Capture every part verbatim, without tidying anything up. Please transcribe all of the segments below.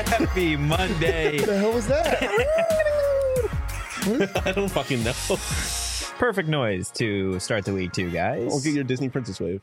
Happy Monday. What the hell was that? I don't fucking know. Perfect noise to start the week, too, guys. I'll get your Disney Princess wave.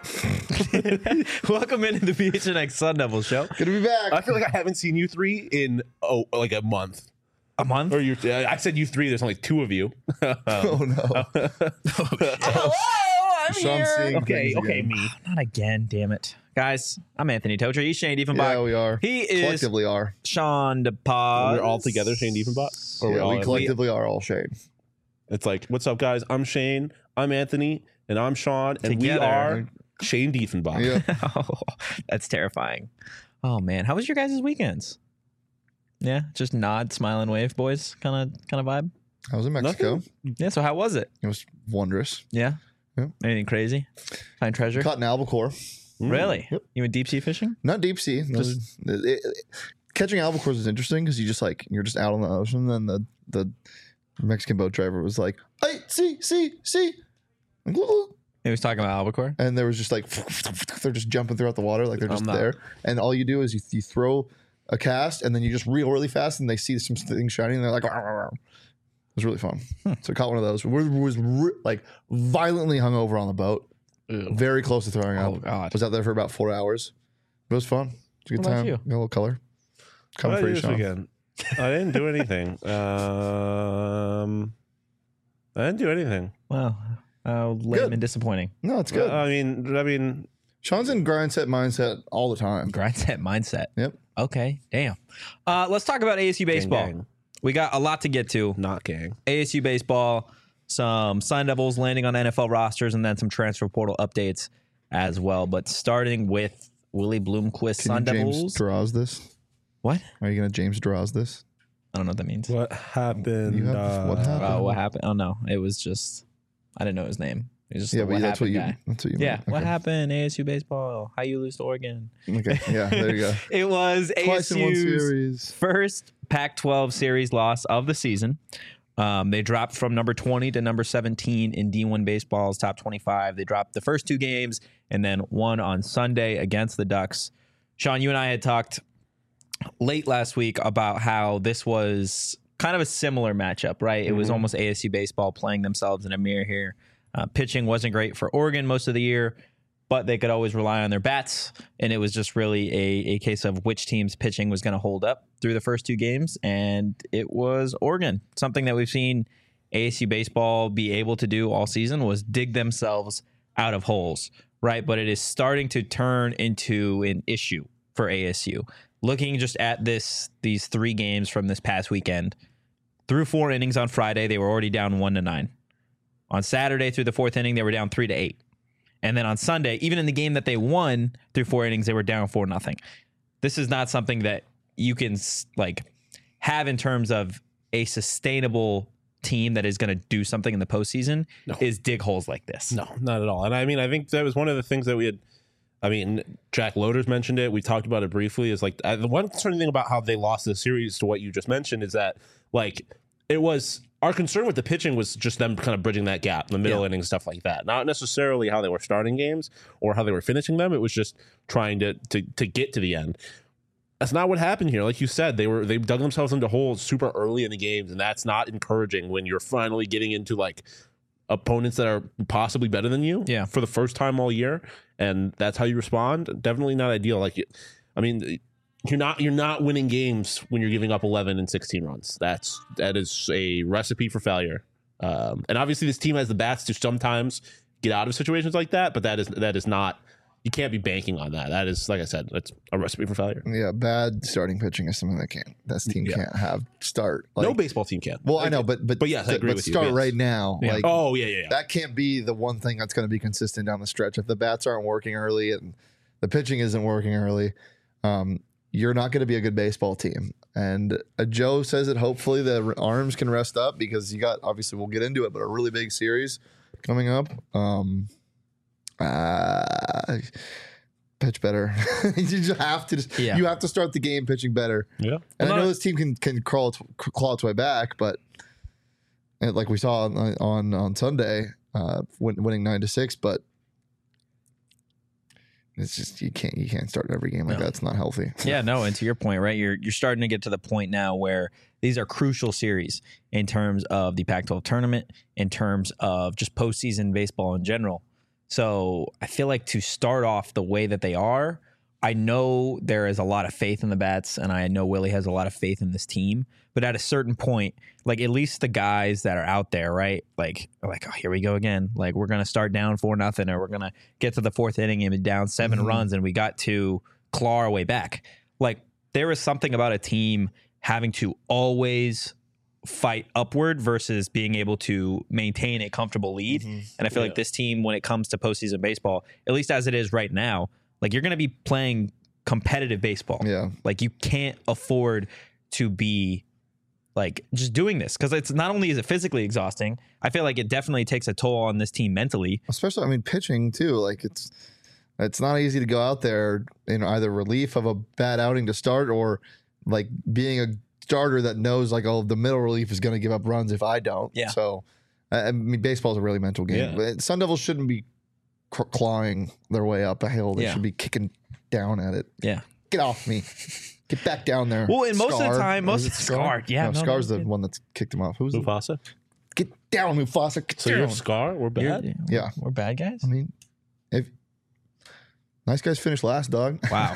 Welcome into the B H N X Sun Devil Show. Good to be back. I feel like I haven't seen you three in oh like a month. A month? Or you? I said you three. There's only two of you. oh no. Hello, I'm Sean's here. seeing Okay, things okay, again. me. Not again, damn it. Guys, I'm Anthony Tocher. He's Shane Diefenbach. Yeah, we are. He is collectively are. Sean DePaz. We're all together, Shane Diefenbach? Or Yeah, we're all we in- collectively are all Shane. It's like, what's up, guys? I'm Shane. I'm Anthony, and I'm Sean, and Together. we are Shane Diefenbach. Yeah. Oh, that's terrifying. Oh man, how was your guys' weekends? Yeah, just nod, smile, and wave, boys. Kind of, kind of vibe. I was in Mexico. Nothing. Yeah. So how was it? It was wondrous. Yeah. Yeah. Anything crazy? Find treasure? Caught an albacore. Mm. Really? Yep. You went deep sea fishing? Not deep sea. Those- it- it- catching albacores is interesting because you just like you're just out on the ocean, and the the Mexican boat driver was like, "Hey, see, see, see," and He was talking about albacore. there was just like they're just jumping throughout the water like they're just I'm not- there, and all you do is you, you throw a cast and then you just reel really fast, and they see some things shining, and they're like, "Rah, rah, rah." It was really fun. So I caught one of those. We was re- like violently hungover on the boat, Ew. very close to throwing up. Oh God. Was out there for about four hours. It was fun. It was a good What about time. you? Got a little color. What Coming did for I you, do this Sean. weekend? I didn't do anything. Um, I didn't do anything. Wow. Uh, lame Good. and disappointing. No, it's good. I mean, I mean, Sean's in grind set mindset all the time. Grind set mindset. Yep. Okay. Damn. Uh, let's talk about A S U baseball. gang. We got a lot to get to. not gang. A S U baseball, some Sun Devils landing on N F L rosters, and then some transfer portal updates as well. But starting with Willie Bloomquist, Can Sun you James Devils. draws this? What? Are you gonna James draws this? I don't know what that means. What happened? You have- what uh, happened? Oh, what happened? Oh no, it was just I didn't know his name. It was just Yeah, the but what that's what happened you. guy. That's what you. Yeah, meant. what Okay. happened? A S U baseball. How you lose to Oregon? Okay. Yeah. There you go. It was Twice in one ASU's series. first Pac twelve series loss of the season. Um, they dropped from number twenty to number seventeen in D one baseball's top twenty-five. They dropped the first two games and then won on Sunday against the Ducks. Sean, you and I had talked late last week about how this was kind of a similar matchup, right? It was Mhm. almost A S U baseball playing themselves in a mirror here. Uh, pitching wasn't great for Oregon most of the year, but they could always rely on their bats. And it was just really a, a case of which team's pitching was going to hold up through the first two games. And it was Oregon. Something that we've seen A S U baseball be able to do all season was dig themselves out of holes, right? But it is starting to turn into an issue for A S U. Looking just at this, these three games from this past weekend, through four innings on Friday, they were already down one to nine. On Saturday, through the fourth inning, they were down three to eight. And then on Sunday, even in the game that they won through four innings, they were down four nothing. This is not something that you can like have in terms of a sustainable team that is going to do something in the postseason. No. Is dig holes like this. No, not at all. And I mean, I think that was one of the things that we had. I mean, Jack Loaders mentioned it. We talked about it briefly. Is like uh, the one concerning thing about how they lost the series to what you just mentioned is that like it was our concern with the pitching was just them kind of bridging that gap, the middle Yeah. innings, stuff like that. Not necessarily how they were starting games or how they were finishing them. It was just trying to to to get to the end. That's not what happened here. Like you said, they were they dug themselves into holes super early in the games, and that's not encouraging when you're finally getting into like opponents that are possibly better than you Yeah. for the first time all year, and that's how you respond. Definitely not ideal. Like, I mean, you're not you're not winning games when you're giving up eleven and sixteen runs. That's that is a recipe for failure. Um, and obviously, this team has the bats to sometimes get out of situations like that, but that is that is not. You can't be banking on that. That is, like I said, that's a recipe for failure. Yeah. Bad starting pitching is something that can't. This team Yeah. can't have start. Like, No baseball team can. Well, I know, but but But yes, I agree but with you, start yes. right now. Yeah. Like Oh yeah, yeah, yeah. that can't be the one thing that's going to be consistent down the stretch. If the bats aren't working early and the pitching isn't working early, um, you're not going to be a good baseball team. And uh, Joe says that hopefully the r- arms can rest up because you got obviously we'll get into it, but a really big series coming up. Um, uh, pitch better. you just have to. Just, Yeah. You have to start the game pitching better. yeah. And Well, I know not- this team can can crawl its, claw its way back, but uh, like we saw on on, on Sunday, uh, win, winning nine to six. But it's just you can't you can't start every game like No. that. It's not healthy. Yeah, no, and to your point, right? You're you're starting to get to the point now where these are crucial series in terms of the Pac twelve tournament, in terms of just postseason baseball in general. So I feel like to start off the way that they are, I know there is a lot of faith in the bats, and I know Willie has a lot of faith in this team. But at a certain point, like at least the guys that are out there, right? Like, like oh, here we go again. Like we're gonna start down four nothing, or we're gonna get to the fourth inning and be down seven Mhm. runs, and we got to claw our way back. Like there is something about a team having to always fight upward versus being able to maintain a comfortable lead. Mhm. And I feel Yeah. like this team, when it comes to postseason baseball, at least as it is right now, like you're going to be playing competitive baseball. Yeah. Like you can't afford to be like just doing this because it's not only is it physically exhausting, I feel like it definitely takes a toll on this team mentally. Especially, I mean, pitching too. Like it's it's not easy to go out there in either relief of a bad outing to start or like being a starter that knows like, oh, the middle relief is going to give up runs if I don't. Yeah. So I I mean, baseball is a really mental game. Yeah. But Sun Devils shouldn't be cr- clawing their way up a hill. They Yeah. should be kicking down at it. Yeah. Get off me. Get back down there. Well, and most of the Scar. time, Or most is of it the Scar. Yeah, no, no, Scar's no, the no. one that's kicked him off. Who's the, Mufasa. get down, Mufasa. Get So down. you're Scar. We're bad. You're- Yeah. We're bad guys. I mean, if nice guys finish last, dog. Wow.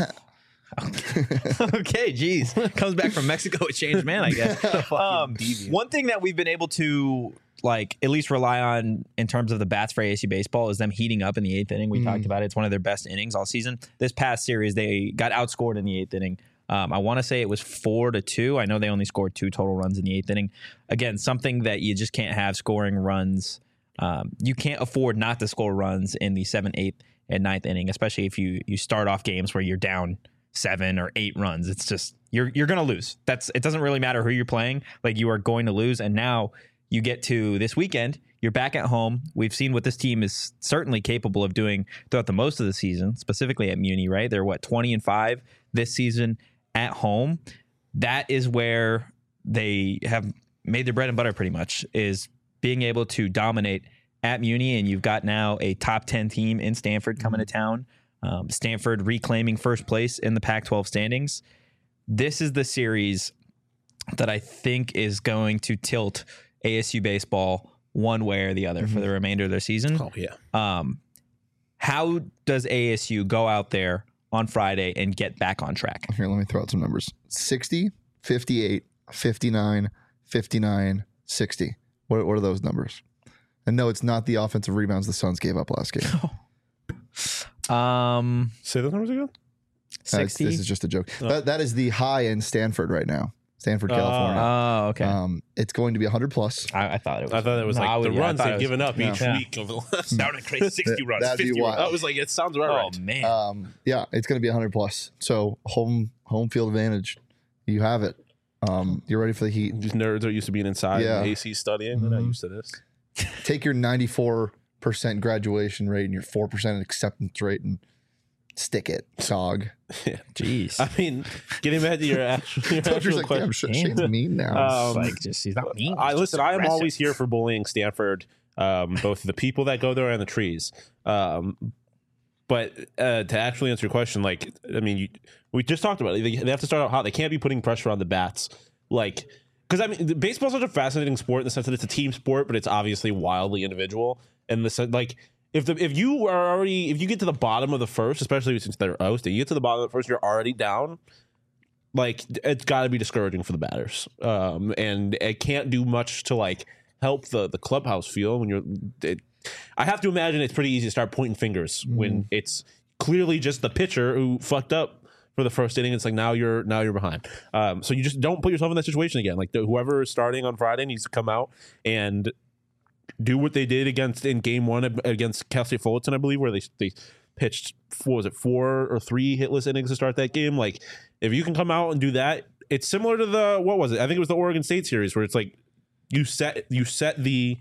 Okay, geez. Comes back from Mexico, a changed man, I guess. Um, one thing that we've been able to like at least rely on in terms of the bats for A S U baseball is them heating up in the eighth inning. We Mm. talked about it. It's one of their best innings all season. This past series, they got outscored in the eighth inning. Um, I want to say it was four to two. I know they only scored two total runs in the eighth inning. Again, something that you just can't have scoring runs. Um, you can't afford not to score runs in the seventh, eighth, and ninth inning, especially if you you start off games where you're down seven or eight runs. It's just you're you're gonna lose. That's it. Doesn't really matter who you're playing. Like you are going to lose. And now you get to this weekend. You're back at home. We've seen what this team is certainly capable of doing throughout the most of the season, specifically at Muni. Right? They're what twenty and five this season at home. That is where they have made their bread and butter. Pretty much is being able to dominate at Muni, and you've got now a top ten team in Stanford coming to town. Um, Stanford reclaiming first place in the Pac twelve standings. This is the series that I think is going to tilt A S U baseball one way or the other for the remainder of their season. Oh yeah. Um, how does A S U go out there on Friday and get back on track? Here, let me throw out some numbers. sixty, fifty-eight, fifty-nine, fifty-nine, sixty. What, what are those numbers? And no, it's not the offensive rebounds the Suns gave up last game. Um, Say those numbers again. Uh, it's- sixty. this is just a joke. Oh. That, that is the high in Stanford right now. Stanford, Oh. California. Oh, okay. Um, it's going to be one hundred plus. I, I thought it was. I thought it was No, I like would- the yeah, I runs thought it they've was- given up yeah. each Yeah. week over the last. Sounded crazy. sixty runs, That'd be fifty runs. wild. I was like, it sounds about Oh right. man. Um, yeah, it's going to be one hundred plus. So home home field advantage. You have it. Um, you're ready for the heat. These nerds are used to being inside Yeah. and A C studying. They're not Mhm. used to this. Take your ninety-four percent graduation rate and your four percent acceptance rate and stick it, dog. Jeez. I mean, getting back to your actual, your Told you, actual like, damn, question. shit, Shane's mean now. Um, like just he's not mean. I he's listen. just I am aggressive. always here for bullying Stanford, um, both the people that go there and the trees. Um, but uh, to actually answer your question, like, I mean, you, we just talked about it. They, they have to start out hot. They can't be putting pressure on the bats, like, because I mean, baseball's such a fascinating sport in the sense that it's a team sport, but it's obviously wildly individual. And the sense, like, if the if you are already if you get to the bottom of the first, especially since they're hosting, you get to the bottom of the first, you're already down. Like, it's got to be discouraging for the batters, um, and it can't do much to like help the the clubhouse feel when you're. It, I have to imagine it's pretty easy to start pointing fingers Mm. when it's clearly just the pitcher who fucked up for the first inning. It's like now you're now you're behind. Um, so you just don't put yourself in that situation again. Like the, whoever is starting on Friday needs to come out and do what they did against in game one against Cal State Fullerton, I believe, where they they pitched what was it four or three hitless innings to start that game. Like if you can come out and do that, it's similar to the what was it? I think it was the Oregon State series where it's like you set you set the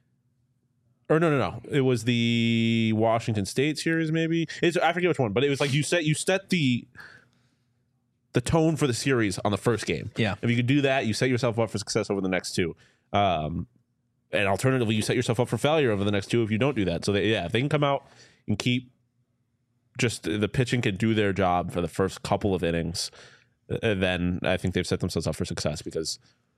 or no no no it was the Washington State series maybe it's I forget which one, but it was like you set you set the the tone for the series on the first game. Yeah. If you could do that, you set yourself up for success over the next two. Um, and alternatively, you set yourself up for failure over the next two if you don't do that. So, they, yeah, if they can come out and keep just the pitching can do their job for the first couple of innings, uh, then I think they've set themselves up for success. Because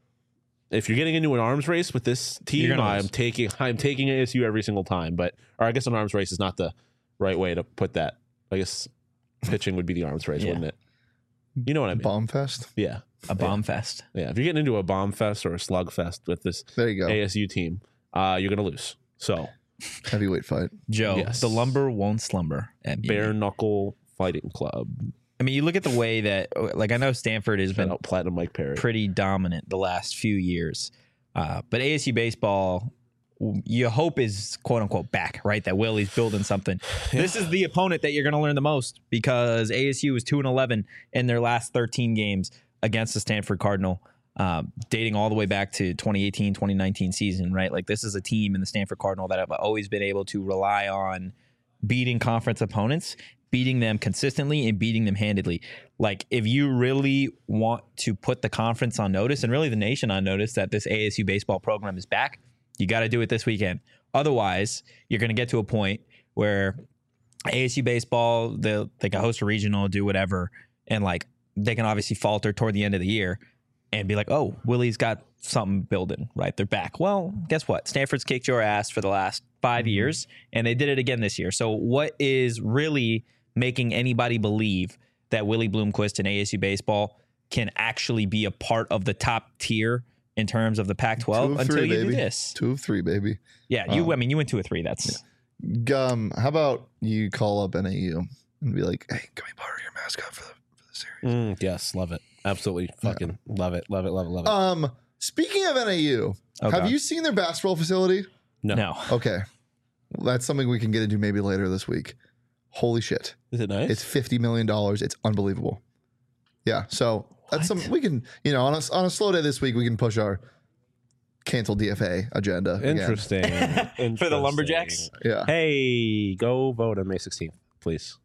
if you're getting into an arms race with this team, I'm lose. taking I'm taking A S U every single time. But or I guess an arms race is not the right way to put that. I guess pitching would be the arms race, yeah. wouldn't it? You know what I mean? Bomb fest? Yeah. A bomb yeah. fest. Yeah. If you're getting into a bomb fest or a slug fest with this there you go. A S U team, uh, you're going to lose. So, heavyweight fight. Joe, yes. the lumber won't slumber. At Bare Knuckle Fighting Club. I mean, you look at the way that, like, I know Stanford has Shout been out Platinum Mike Perry. pretty dominant the last few years. Uh, but A S U baseball, you hope is quote unquote back, right? That Willie's building something. Yeah. This is the opponent that you're going to learn the most because A S U is two and eleven in their last thirteen games against the Stanford Cardinal, um, dating all the way back to twenty eighteen, twenty nineteen season, right? Like this is a team in the Stanford Cardinal that have always been able to rely on beating conference opponents, beating them consistently and beating them handedly. Like if you really want to put the conference on notice and really the nation on notice that this A S U baseball program is back, you got to do it this weekend. Otherwise, you're going to get to a point where A S U baseball, they they can host a regional, do whatever, and like they can obviously falter toward the end of the year and be like, oh, Willie's got something building, right? They're back. Well, guess what? Stanford's kicked your ass for the last five mm-hmm. years, and they did it again this year. So what is really making anybody believe that Willie Bloomquist and A S U baseball can actually be a part of the top tier in terms of the Pac twelve until three, you baby. do this? Two of three, baby. Yeah, you. Um, I mean, you went two or three. That's um. How about you call up N A U and be like, "Hey, can we borrow your mascot for the for the series?" Mm, yes, love it. Absolutely, fucking yeah. love it. Love it. Love it. Love it. Um. Speaking of N A U, oh, have God. you seen their basketball facility? No. No. Okay, well, that's something we can get into maybe later this week. Holy shit! Is it nice? It's fifty million dollars. It's unbelievable. Yeah. So that's what? some we can you know on a on a slow day this week we can push our cancel D F A agenda. Interesting. Interesting. For the Lumberjacks? Yeah. Hey, go vote on May sixteenth, please.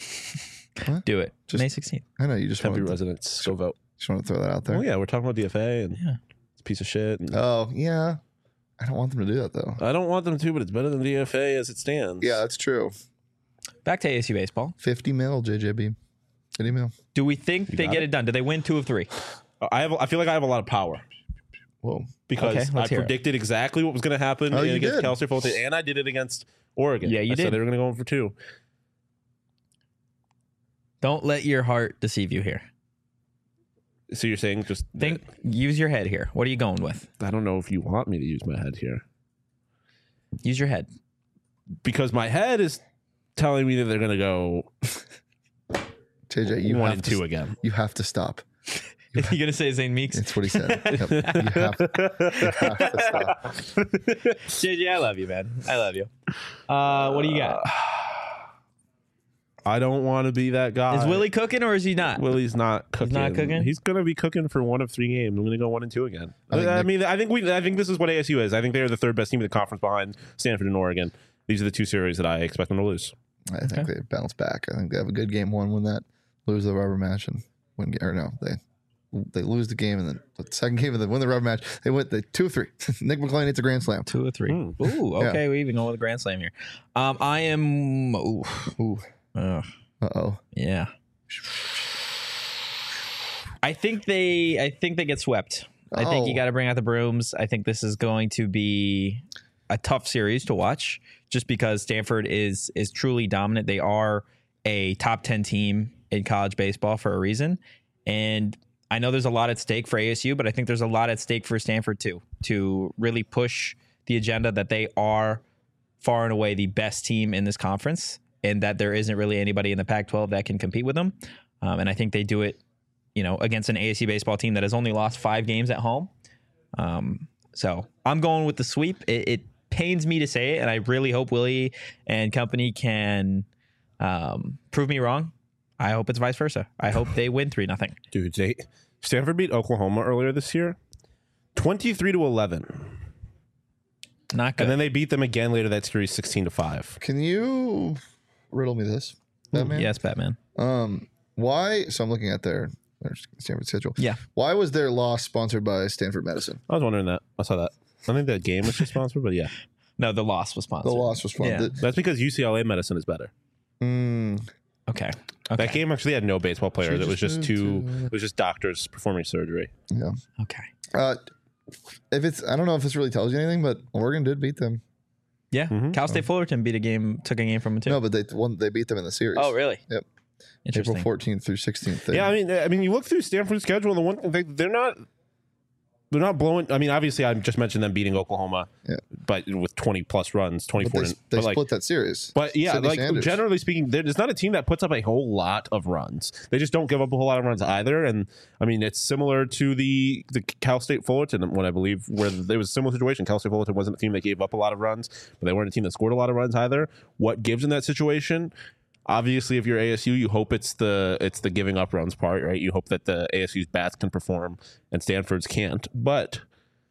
What? Do it. Just, May sixteenth. I know you just Tempe want residents, go vote. Just want to throw that out there. Oh yeah, we're talking about D F A and yeah. it's a piece of shit. And oh yeah, I don't want them to do that though. I don't want them to, but it's better than D F A as it stands. Yeah, that's true. Back to A S U baseball. fifty mil, J J B. fifty mil. Do we think you they get it? it done? Do they win two of three? I have. I feel like I have a lot of power. Whoa. Because okay, I predicted it. exactly what was going to happen oh, against did. Cal State Fulton, and I did it against Oregon. Yeah, you I did. said they were going to go in for two. Don't let your heart deceive you here. So you're saying just think, use your head here. What are you going with? I don't know if you want me to use my head here. Use your head. Because my head is telling me that they're going to go J J, you one have and to, two again. You have to stop. You are you gonna say Zane Meeks? That's what he said. Yep. You, have, you have to stop. J J, I love you, man. I love you. Uh, what do you got? I don't want to be that guy. Is Willie cooking or is he not? Willie's not cooking. He's not cooking. He's gonna be cooking for one of three games. I'm gonna go one and two again. I, I, I Nick, mean, I think we. I think this is what A S U is. I think they're the third best team in the conference behind Stanford and Oregon. These are the two series that I expect them to lose. I think okay. they bounce back. I think they have a good game one, win that, lose the rubber match, and win. Or no, they. They lose the game, and then the second game, and then win the rubber match. They went the two or three. Nick McClain hits a grand slam. Two or three. Mm. Ooh, okay. Yeah. We even go with a grand slam here. Um, I am. Ooh. Ooh. Uh oh. Yeah. I think they. I think they get swept. Oh. I think you got to bring out the brooms. I think this is going to be a tough series to watch, just because Stanford is is truly dominant. They are a top ten team in college baseball for a reason, and I know there's a lot at stake for A S U, but I think there's a lot at stake for Stanford too, to really push the agenda that they are far and away the best team in this conference and that there isn't really anybody in the Pac twelve that can compete with them. Um, and I think they do it, you know, against an A S U baseball team that has only lost five games at home. Um, so I'm going with the sweep. It, it pains me to say it, and I really hope Willie and company can um, prove me wrong. I hope it's vice versa. I hope they win three nothing. Dude, they Stanford beat Oklahoma earlier this year, twenty-three to eleven. Not good. And then they beat them again later that series, sixteen to five. Can you riddle me this, Batman? Yes, Batman. Um, why? So I'm looking at their, their Stanford schedule. Yeah. Why was their loss sponsored by Stanford Medicine? I was wondering that. I saw that. I think that game was just sponsored, but yeah. No, the loss was sponsored. The loss was sponsored. Yeah. That's because U C L A medicine is better. Mm. Okay. Okay. That game actually had no baseball players. She It was just just moved two. to- It was just doctors performing surgery. Yeah. Okay. Uh, if it's, I don't know if this really tells you anything, but Oregon did beat them. Yeah. Mhm. Cal State Fullerton beat a game, took a game from them too. No, but they won. They beat them in the series. Oh, really? Yep. Interesting. April fourteenth through sixteenth. Yeah, I mean, I mean, you look through Stanford's schedule, and the one they, they're not, they're not blowing. I mean, obviously, I just mentioned them beating Oklahoma, Yeah. but with twenty plus runs, twenty but four. they, and, they but like, split that series. But yeah, Sidney like Sanders. generally speaking, there- it's not a team that puts up a whole lot of runs. They just don't give up a whole lot of runs either. And I mean, it's similar to the the Cal State Fullerton one, I believe, where there was a similar situation. Cal State Fullerton wasn't a team that gave up a lot of runs, but they weren't a team that scored a lot of runs either. What gives in that situation? Obviously, if you're A S U, you hope it's the it's the giving up runs part, right? You hope that the A S U's bats can perform and Stanford's can't. But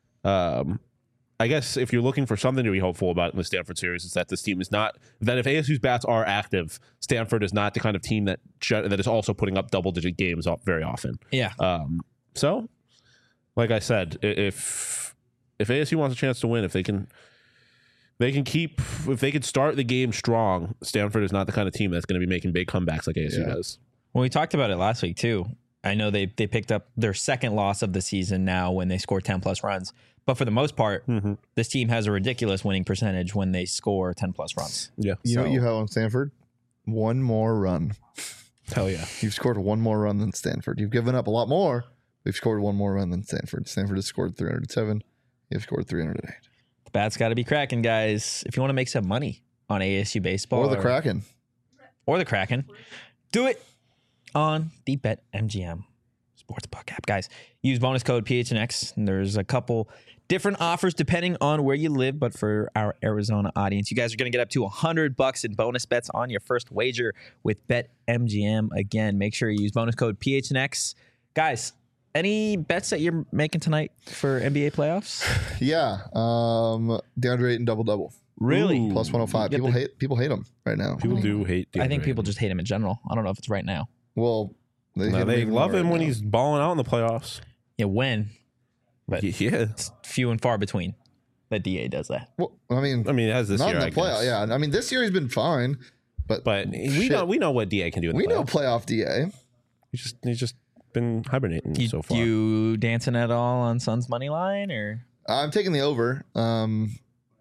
um, I guess if you're looking for something to be hopeful about in the Stanford series, is that this team is not that if A S U's bats are active, Stanford is not the kind of team that that is also putting up double digit games very often. Yeah. Um, so, like I said, i- if if A S U wants a chance to win, if they can. They can keep if they could start the game strong. Stanford is not the kind of team that's going to be making big comebacks like A S U Yeah. does. Well, we talked about it last week too. I know they they picked up their second loss of the season now when they scored ten plus runs. But for the most part, Mm-hmm. this team has a ridiculous winning percentage when they score ten plus runs. Yeah, You know So- what you have on Stanford? One more run. hell yeah. You've scored one more run than Stanford. You've given up a lot more. We've scored one more run than Stanford. Stanford has scored three hundred seven. You've scored three hundred eight. The bat's got to be cracking, guys. If you want to make some money on A S U baseball Or the Kraken. or the Kraken, do it on the BetMGM Sportsbook app, guys. Use bonus code P H N X. And there's a couple different offers depending on where you live, but for our Arizona audience, you guys are going to get up to one hundred bucks in bonus bets on your first wager with BetMGM. Again, make sure you use bonus code P H N X. Guys, any bets that you're making tonight for N B A playoffs? Yeah. Um, DeAndre Ayton double double. Really? Ooh. Plus one oh five. You get People the- hate people hate him right now. People do hate. I think DeAndre people Ayton. just hate him in general. I don't know if it's right now. Well, they, No, hate they even love more him right when now. he's balling out in the playoffs. Yeah, when? But Yeah, it's few and far between that D A does that. Well, I mean, I mean, it has this not year. in I the playoff. guess. Yeah, I mean, this year he's been fine, but but we shit, know we know what D A can do in the we know playoffs. playoff D A. He's just he's just been hibernating You, so far. you dancing at all on Suns money line or? I'm taking the over. Um,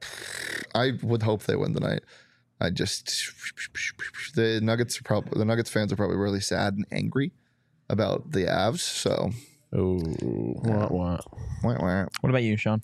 I would hope they win tonight. I just the Nuggets are probably the Nuggets fans are probably really sad and angry about the Avs. So, oh, wah, wah. wah, wah. What about you, Sean?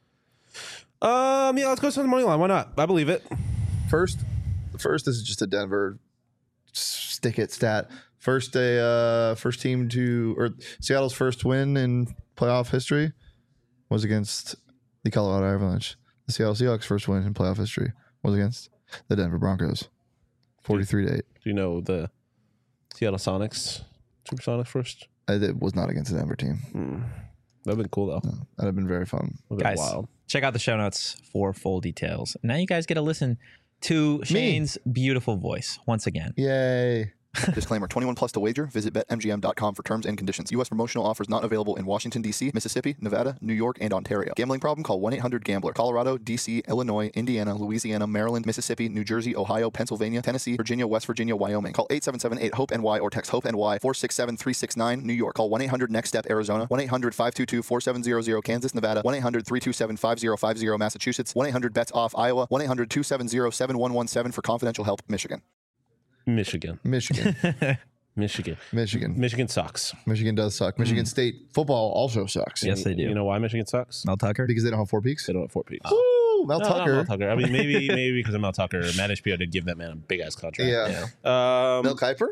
Um, yeah, let's go to the money line. Why not? I believe it. first, first this is just a Denver stick it stat. First a uh, first team to or Seattle's first win in playoff history was against the Colorado Avalanche. The Seattle Seahawks' first win in playoff history was against the Denver Broncos, forty-three to eight. Do you know the Seattle Sonics, Supersonics first? It was not against the Denver team. Hmm. That'd been cool though. That'd have been very fun. That'd been Guys, wild. check out the show notes for full details. Now you guys get to listen to Shane's beautiful voice once again. Yay. Disclaimer, twenty-one plus to wager. Visit bet M G M dot com for terms and conditions. U S promotional offers not available in Washington, D C, Mississippi, Nevada, New York, and Ontario. Gambling problem? Call one eight hundred gambler. Colorado, D C, Illinois, Indiana, Louisiana, Maryland, Mississippi, New Jersey, Ohio, Pennsylvania, Tennessee, Virginia, West Virginia, Wyoming. Call eight seven seven eight hope N Y or text HOPE N Y four six seven three six nine. New York. Call one eight hundred next step Arizona. one eight hundred five two two four seven zero zero Kansas, Nevada. one eight hundred three two seven five zero five zero Massachusetts. one eight hundred bets off Iowa. one eight hundred two seven zero seven one one seven for confidential help, Michigan. Michigan, Michigan. Michigan, Michigan. Michigan sucks. Michigan does suck. Michigan State football also sucks. Yes, they do. You know why Michigan sucks? Mel Tucker? Because they don't have four peaks. They don't have four peaks. Woo, Mel No, not Tucker. Mel Tucker. I mean, maybe maybe because of Mel Tucker. Matt H B O did give that man a big ass contract. Yeah. Um, Mel Kiper?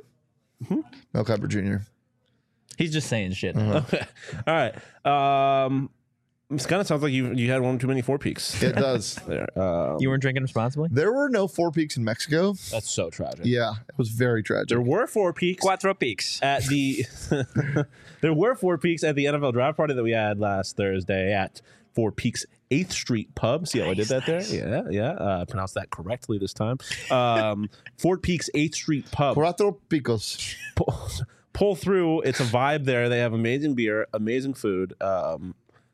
Mel Kiper Junior He's just saying shit. Okay. All right. Um, it kind of sounds like you you had one too many four peaks. It does. There. Um, You weren't drinking responsibly? There were no four peaks in Mexico. that's so tragic. Yeah, it was very tragic. There were four peaks Cuatro peaks. at the. There were four peaks at the N F L draft party that we had last Thursday at Four Peaks eighth Street Pub. See how I did that there? Yeah, yeah. Uh, pronounced that correctly this time. Um, Four Peaks eighth Street Pub. Cuatro picos. Pull, pull through. It's a vibe there. They have amazing beer, amazing food. Um,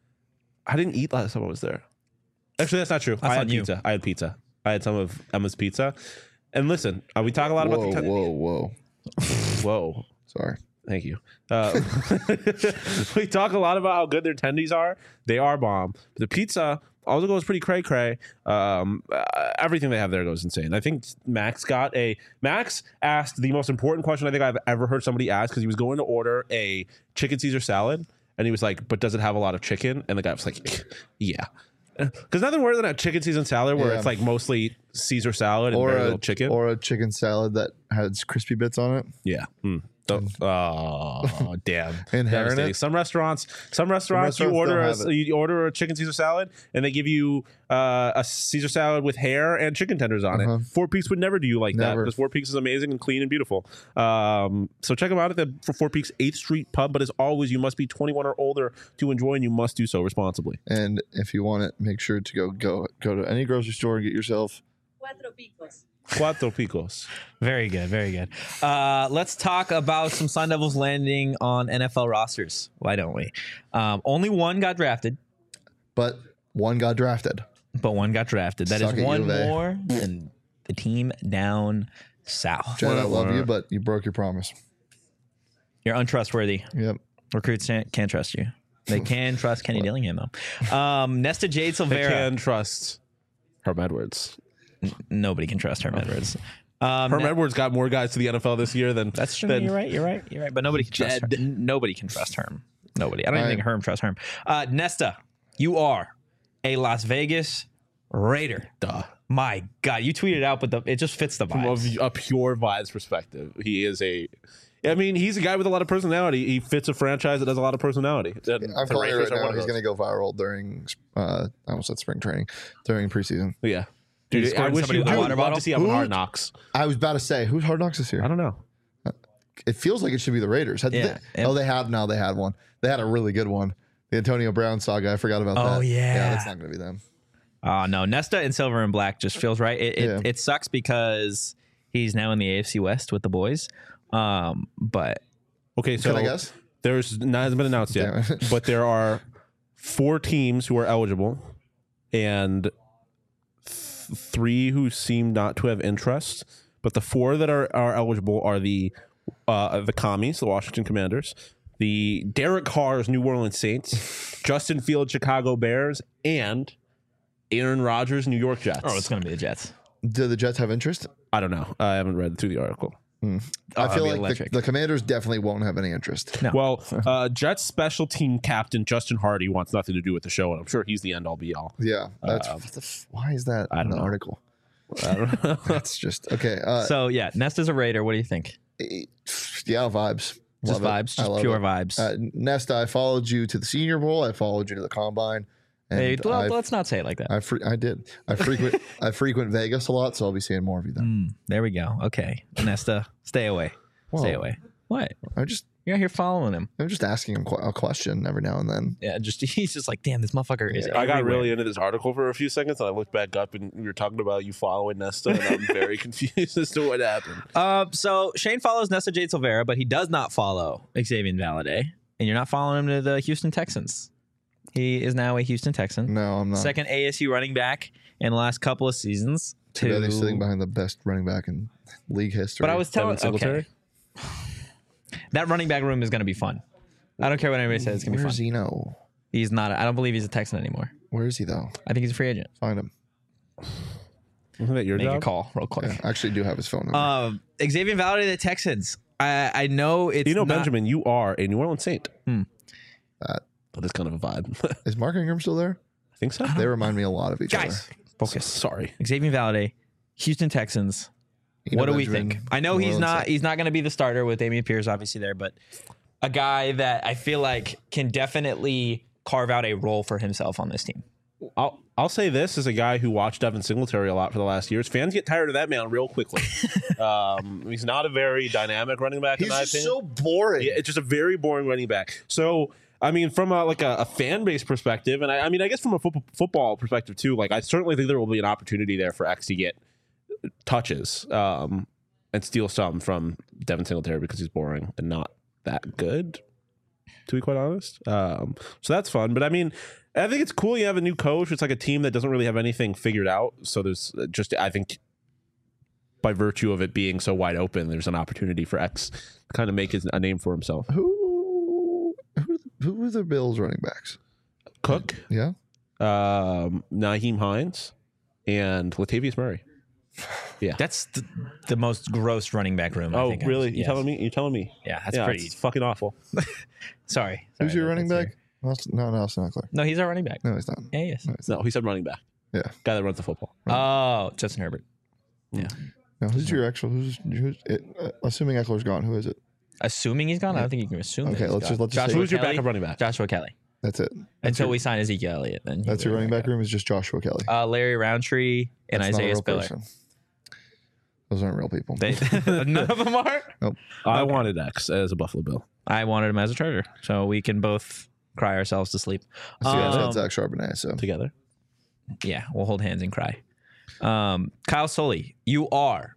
I didn't eat last time I was there. Actually, that's not true. That's I had on you. pizza. I had pizza. I had some of Emma's pizza. And listen, uh, we talk a lot about Whoa, the. Ten- whoa, whoa. Whoa. Sorry. Thank you. Uh, we talk a lot about how good their tendies are. They are bomb. But the pizza also goes pretty cray cray. Um, uh, everything they have there goes insane. I think Max got a Max asked the most important question I think I've ever heard somebody ask, because he was going to order a chicken Caesar salad, and he was like, "But does it have a lot of chicken?" And the guy was like, "Yeah." Because nothing worse than a chicken Caesar salad where Yeah. it's like mostly Caesar salad and Or very a little chicken. or a chicken salad that has crispy bits on it. Yeah. Mm. Oh, damn. Inherent Devastating. it? Some restaurants, some restaurants, restaurants you order don't a, have it. you order a chicken Caesar salad and they give you uh, a Caesar salad with hair and chicken tenders on Uh-huh. it. Four Peaks would never do you like that, Never. because Four Peaks is amazing and clean and beautiful. Um, so check them out at the for Four Peaks eighth Street Pub. But as always, you must be twenty-one or older to enjoy, and you must do so responsibly. And if you want it, make sure to go go go to any grocery store and get yourself. Cuatro picos. Cuatro Picos. Very good, very good. Uh, let's talk about some Sun Devils landing on N F L rosters. Why don't we? Um, only one got drafted, But one got drafted. but one got drafted. That Suck is it, one U of A. more than the team down south. Jen, I love Whatever. you, but you broke your promise. You're untrustworthy. Yep. Recruits can't, can't trust you. They can trust Kenny Dillingham, though. Um, Nesta Jade I Silvera. can trust Herm Edwards. Nobody can trust Herm Edwards. Um, Herm Ne- Edwards got more guys to the N F L this year than That's true. than You're right. You're right. You're right. But nobody can trust Dead. Herm. Nobody can trust Herm. Nobody. I don't even Right. think Herm trusts Herm. Uh, Nesta, you are a Las Vegas Raider. Duh. My God, you tweeted out, but the, it just fits the From vibes. a, a pure vibes perspective, he is a. I mean, he's a guy with a lot of personality. He fits a franchise that has a lot of personality. And I'm the calling it Raiders right are now. one of He's those. going to go viral during, uh, I almost said spring training, during preseason. Yeah, Dude, dude. I scoring wish somebody you with a would water love bottle? to see him on Who? Hard Knocks. I was about to say, who's Hard Knocks this year? I don't know. It feels like it should be the Raiders. Had Yeah. they- oh, they had no, they had one. They had a really good one. The Antonio Brown saga. I forgot about that. Oh, yeah. yeah, that's not going to be them. Oh, no. Nesta in silver and black just feels right. It, it, Yeah. it sucks because he's now in the A F C West with the boys. Um, but Okay, so Can I guess? there's not hasn't been announced yet, Damn it. but there are four teams who are eligible, and th- three who seem not to have interest. But the four that are, are eligible are the uh, the Commies, the Washington Commanders, the Derek Carr's New Orleans Saints, Justin Fields Chicago Bears, and Aaron Rodgers New York Jets. oh, it's going to be the Jets. Do the Jets have interest? I don't know. I haven't read through the article. Oh, I that'd feel be like the, electric. the Commanders definitely won't have any interest. No. Well, uh, Jets special team captain Justin Hardy wants nothing to do with the show, and I'm sure he's the end all be all. Yeah, that's Um, what the f- why is that I in don't the know. article? I don't know. That's just okay. Uh, So, yeah, Nesta's a Raider. What do you think? yeah, vibes. Just Love it. vibes, I just love pure it. vibes. Uh, Nesta, I followed you to the Senior Bowl. I followed you to the Combine. And hey, well, I, let's not say it like that. I, fre- I did. I frequent I frequent Vegas a lot, so I'll be seeing more of you then. Mm, there we go. Okay. Nesta, stay away. Stay Whoa. away. What? I just You're out here following him. I'm just asking him qu- a question every now and then. Yeah, just he's just like, damn, this motherfucker is. I got everywhere. really into this article for a few seconds, and I looked back up, and we were talking about you following Nesta, and I'm very confused as to what happened. Uh, so Shane follows Nesta Jade Silvera, but he does not follow Xavier Valade, and you're not following him to the Houston Texans. He is now a Houston Texan, No, I'm not. second A S U running back in the last couple of seasons. Too bad to- he's sitting behind the best running back in league history. But I was telling Devin Singletary? okay. That running back room is going to be fun. I don't care what anybody says; it's going to be Where's fun. Zeno? He's not. I don't believe he's a Texan anymore. Where is he though? I think he's a free agent. Find him. Isn't that your Make a job? call real quick. Yeah, I actually do have his phone number. Um, Xavier Valade, the Texans. I I know it's You know, not- Benjamin, you are a New Orleans Saint. Hmm. That- Oh, that's kind of a vibe. I is Mark Ingram still there? think so. They remind me a lot of each Guys, other. focus. Sorry. Xavier Valade, Houston Texans. Eno What do we Benjamin, think? I know New he's Orleans not Saints. he's not going to be the starter with Damian Pierce obviously there, but a guy that I feel like can definitely carve out a role for himself on this team. I'll I'll say this as a guy who watched Devin Singletary a lot for the last years. Fans get tired of that man real quickly. um, he's not a very dynamic running back in He's my just opinion. so boring. Yeah, it's just a very boring running back. So, I mean, from a, like a, a fan base perspective, and I, I mean, I guess from a fo- football perspective too, like I certainly think there will be an opportunity there for X to get touches um, and steal some from Devin Singletary because he's boring and not that good, to be quite honest. Um, so that's fun. But I mean, I think it's cool you have a new coach. It's like a team that doesn't really have anything figured out. So there's just, I think, by virtue of it being so wide open, there's an opportunity for X to kind of make his, a name for himself. Who who who are the Bills running backs? Cook, Yeah. um, Naheem Hines, and Latavius Murray. That's the, the most gross running back room. I Oh, think I've- really? You yes. telling me? You telling me? Yeah, that's yeah, pretty. it's fucking awful. Sorry. Who's Sorry, your running that's back? Nelson- No, Nelson Eckler. No, he's our running back. No, he's not. Yeah, he is. No, he's No, he said running back. Yeah. Guy that runs the football. Oh, Justin Herbert. Yeah. No, who's your actual? Who's, who's it, uh, assuming Eckler's gone? Who is it? Assuming he's gone, I don't think you can assume. Okay, that he's let's gone. just- let's just Joshua say- Who's your Kelly? backup running back? Joshua Kelly. That's it. Until we sign Ezekiel Elliott, then That's your running back room is just Joshua Kelly. Uh, Larry Roundtree and That's not a Isaiah real Spiller. person. Those aren't real people. They, none of them are. I wanted X as a Buffalo Bill. I wanted him as a Charger, so we can both cry ourselves to sleep. So you guys Um, had Zach Charbonnet. So Together. Yeah, we'll hold hands and cry. Um, Kyle Sully, you are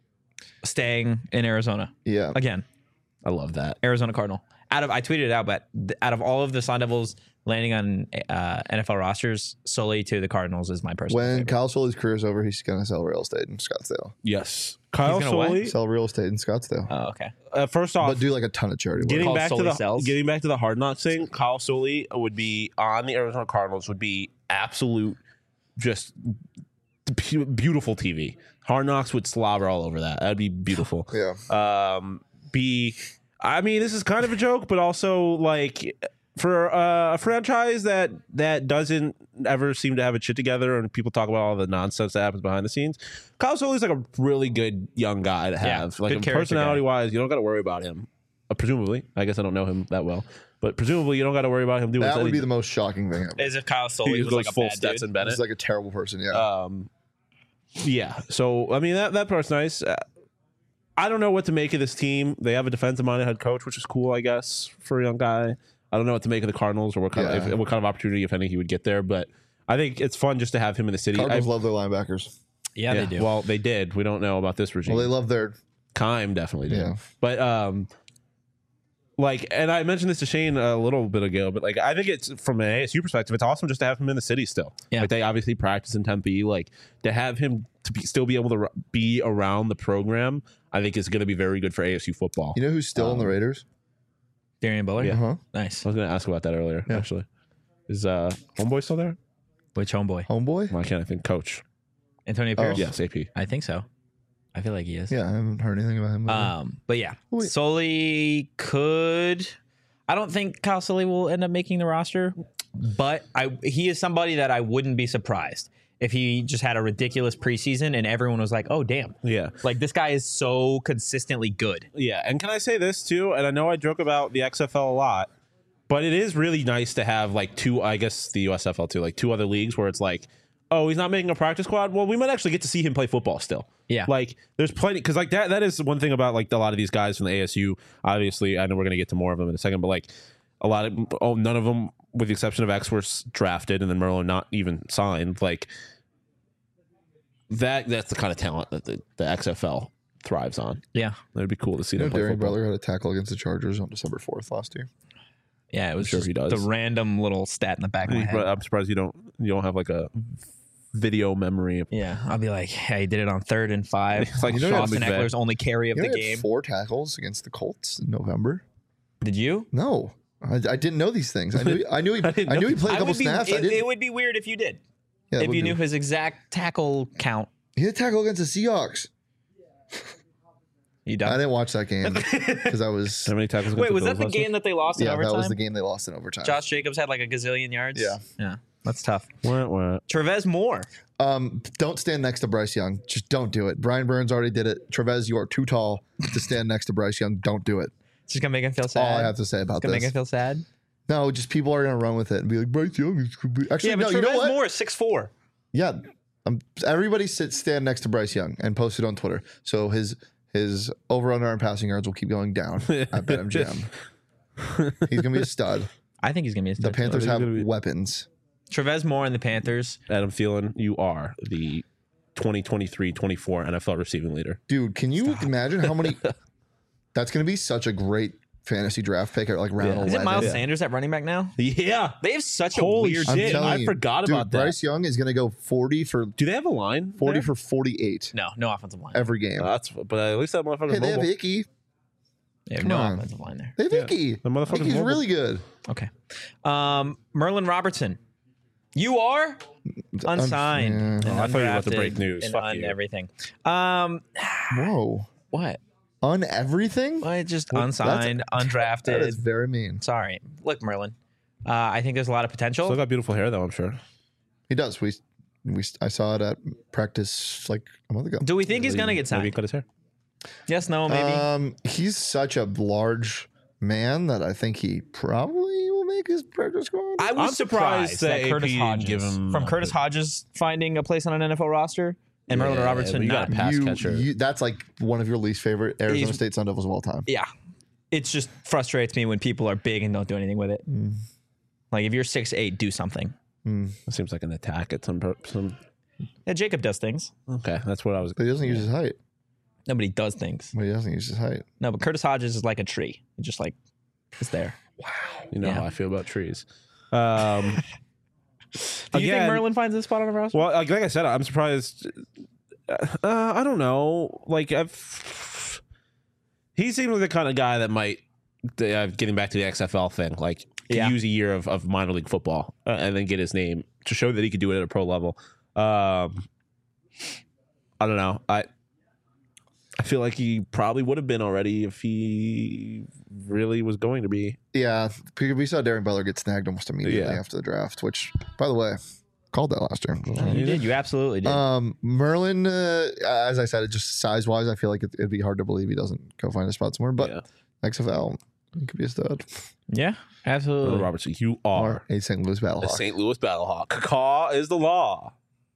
staying in Arizona yeah, again. I love that. Arizona Cardinal. Out of I tweeted it out, but th- out of all of the Sun Devils landing on uh, N F L rosters, Sully to the Cardinals is my personal when favorite. Kyle Sully's career is over, he's gonna sell real estate in Scottsdale. Yes. Kyle gonna what? Sully. Sell real estate in Scottsdale, Oh, okay. Uh, first off, but do like a ton of charity work. getting Called back to Sully the Sells. getting back to the Hard Knocks thing, Kyle Sully would be on the Arizona Cardinals. Would be absolute, just pu- beautiful T V. Hard Knocks would slobber all over that. That'd be beautiful. Yeah, Um, be, I mean, this is kind of a joke, but also like for uh, a franchise that that doesn't ever seem to have it shit together, and people talk about all the nonsense that happens behind the scenes. Kyle Sully's like a really good young guy to Yeah, have. Like good character personality guy. wise, you don't got to worry about him. Uh, presumably, I guess I don't know him that well, but presumably you don't got to worry about him doing that would anything. be the most shocking thing ever. As if Kyle Sully He was goes like a full bad Stetson dude. Bennett. He's like a terrible person. Yeah, Um, yeah. So I mean that that part's nice. Uh, I don't know what to make of this team. They have a defensive-minded head coach, which is cool, I guess, for a young guy. I don't know what to make of the Cardinals or what kind Yeah. of if, what kind of opportunity, if any, he would get there. But I think it's fun just to have him in the city. Cardinals I- love their linebackers. Yeah, yeah, they do. Well, they did. We don't know about this regime. Well, they love their Kime definitely did. Yeah. But um like and I mentioned this to Shane a little bit ago, but like I think it's from an A S U perspective, it's awesome just to have him in the city still. Yeah. Like they obviously practice in Tempe, like to have him to be, still be able to r- be around the program, I think is going to be very good for A S U football. You know who's still in the Um, Raiders? Darian Buller. Yeah. Uh-huh. Nice. I was going to ask about that earlier Yeah. actually. Is uh homeboy still there? Which homeboy? Homeboy? Why can't I think coach? Antonio Oh. Pierce. Yes, A P. I think so. I feel like he is. Yeah, I haven't heard anything about him. Um, but yeah, Wait. Sully could. I don't think Kyle Sully will end up making the roster, but I he is somebody that I wouldn't be surprised if he just had a ridiculous preseason and everyone was like, "Oh, damn!" Yeah. Like this guy is so consistently good. Yeah, and can I say this too? And I know I joke about the X F L a lot, but it is really nice to have like two, I guess the U S F L too, like two other leagues where it's like, oh, he's not making a practice squad. Well, we might actually get to see him play football still. Yeah. Like there's plenty, because like that that is one thing about like a lot of these guys from the A S U. Obviously, I know we're gonna get to more of them in a second, but like a lot of oh, none of them, with the exception of X, were s- drafted, and then Merlin not even signed. Like that that's the kind of talent that the, the X F L thrives on. Yeah, It'd be cool to see you know, them play Darian football. Butler had a tackle against the Chargers on December fourth last year. yeah. It was sure just he does. the random little stat in the back of my I'm head. surprised you don't you don't have like a video memory. Of, Yeah, I'll be like, hey, he did it on third and five. It's like You know, Austin Sean McVay. Eckler's only carry of You know, the he had game. four tackles against the Colts in November. Did you? No, I, I didn't know these things. I knew I knew he I, didn't know knew he these. played a I couple would be, snaps. I it, didn't. it would be weird if you did. yeah, that if would you be- knew his exact tackle count. he had a tackle against the Seahawks. You I done? didn't watch that game because I was. how many tackles? against Wait, the was that Bills the last game week? that they lost in Yeah, overtime? that was the game they lost in overtime. Josh Jacobs had like a gazillion yards. Yeah. yeah, that's tough. Wah, wah. Trevez Moore. Um, don't stand next to Bryce Young. Just don't do it. Brian Burns already did it. Trevez, you are too tall to stand next to Bryce Young. Don't do it. It's just gonna make him feel That's all sad. I have to say about It's gonna make this. him feel sad. No, just people are gonna run with it and be like Bryce Young is actually Yeah, but no. Trevez You know what? Moore is six four. Yeah, um, everybody sit stand next to Bryce Young and post it on Twitter. So his his over under and passing yards will keep going down at BetMGM. He's gonna be a stud. I think he's gonna be a The stud. Panthers he's have gonna be- weapons. Trevez Moore and the Panthers. Adam Thielen, you are the twenty twenty-three twenty-four N F L receiving leader. Dude, can you imagine how many? That's gonna be such a great fantasy draft pick at like round Yeah. eleven. Is it Miles Yeah. Sanders at running back now? Yeah. They have such a Holy weird. I'm shit. telling I you, forgot dude, about that. Bryce Young is going to go forty for Do they have a line? forty there? for forty-eight No, no offensive line. every game. Uh, that's but at least that motherfucker's hey, they have mobile. Icky. They have come no on. offensive line there. They have Yeah. Icky. The motherfucker's Icky's mobile. really good. Okay. Um, Merlin Robertson. You are unsigned. yeah. and Oh, I thought you were about to undrafted break news. and Fuck un- you. everything. Um, Whoa. what? On everything? Well, just Well, unsigned, That undrafted. is very mean. Sorry. Look, Merlin. Uh, I think there's a lot of potential. Still got beautiful hair though, I'm sure. He does. We we I saw it at practice like a month ago. Do we think he's gonna get Maybe he signed? cut his hair. Yes, no, maybe. Um, he's such a large man that I think he probably will make his practice squad. I was I'm surprised, surprised that, that Curtis A P didn't Hodges, give him from a Curtis bit. Hodges finding a place on an N F L roster, and Merlin Yeah, Robertson but you not. gotta pass you, catcher. you- that's like one of your least favorite Arizona He's- State Sun Devils of all time. Yeah, it just frustrates me when people are big and don't do anything with it. Mm. Like if you're six eight, do something. Mm. It seems like an attack at some per- some. Yeah, Jacob does things. Okay, that's what I was. But he doesn't use his height. Nobody does things. Well, he doesn't use his height. No, but Curtis Hodges is like a tree. He just like is there. You know Yeah. how I feel about trees. Um, Do you Again- think Merlin finds this spot on the roster? well, like, like I said, I'm surprised. Uh, I don't know. Like, I've, he seems like the kind of guy that might. Uh, getting back to the X F L thing, like Yeah. use a year of, of minor league football uh, and then get his name to show that he could do it at a pro level. Um, I don't know. I I feel like he probably would have been already if he really was going to be. Yeah, we we saw Darren Butler get snagged almost immediately Yeah. after the draft, which, by the way, called that last year. You did. You absolutely did. Um, Merlin, uh, as I said, it just size wise, I feel like it, it'd be hard to believe he doesn't go find a spot somewhere. But Yeah. X F L, he could be a stud. yeah, absolutely. Merlin Robertson, you are Or a Saint Louis a Battlehawk. Saint Louis Battlehawk. Caw is the law.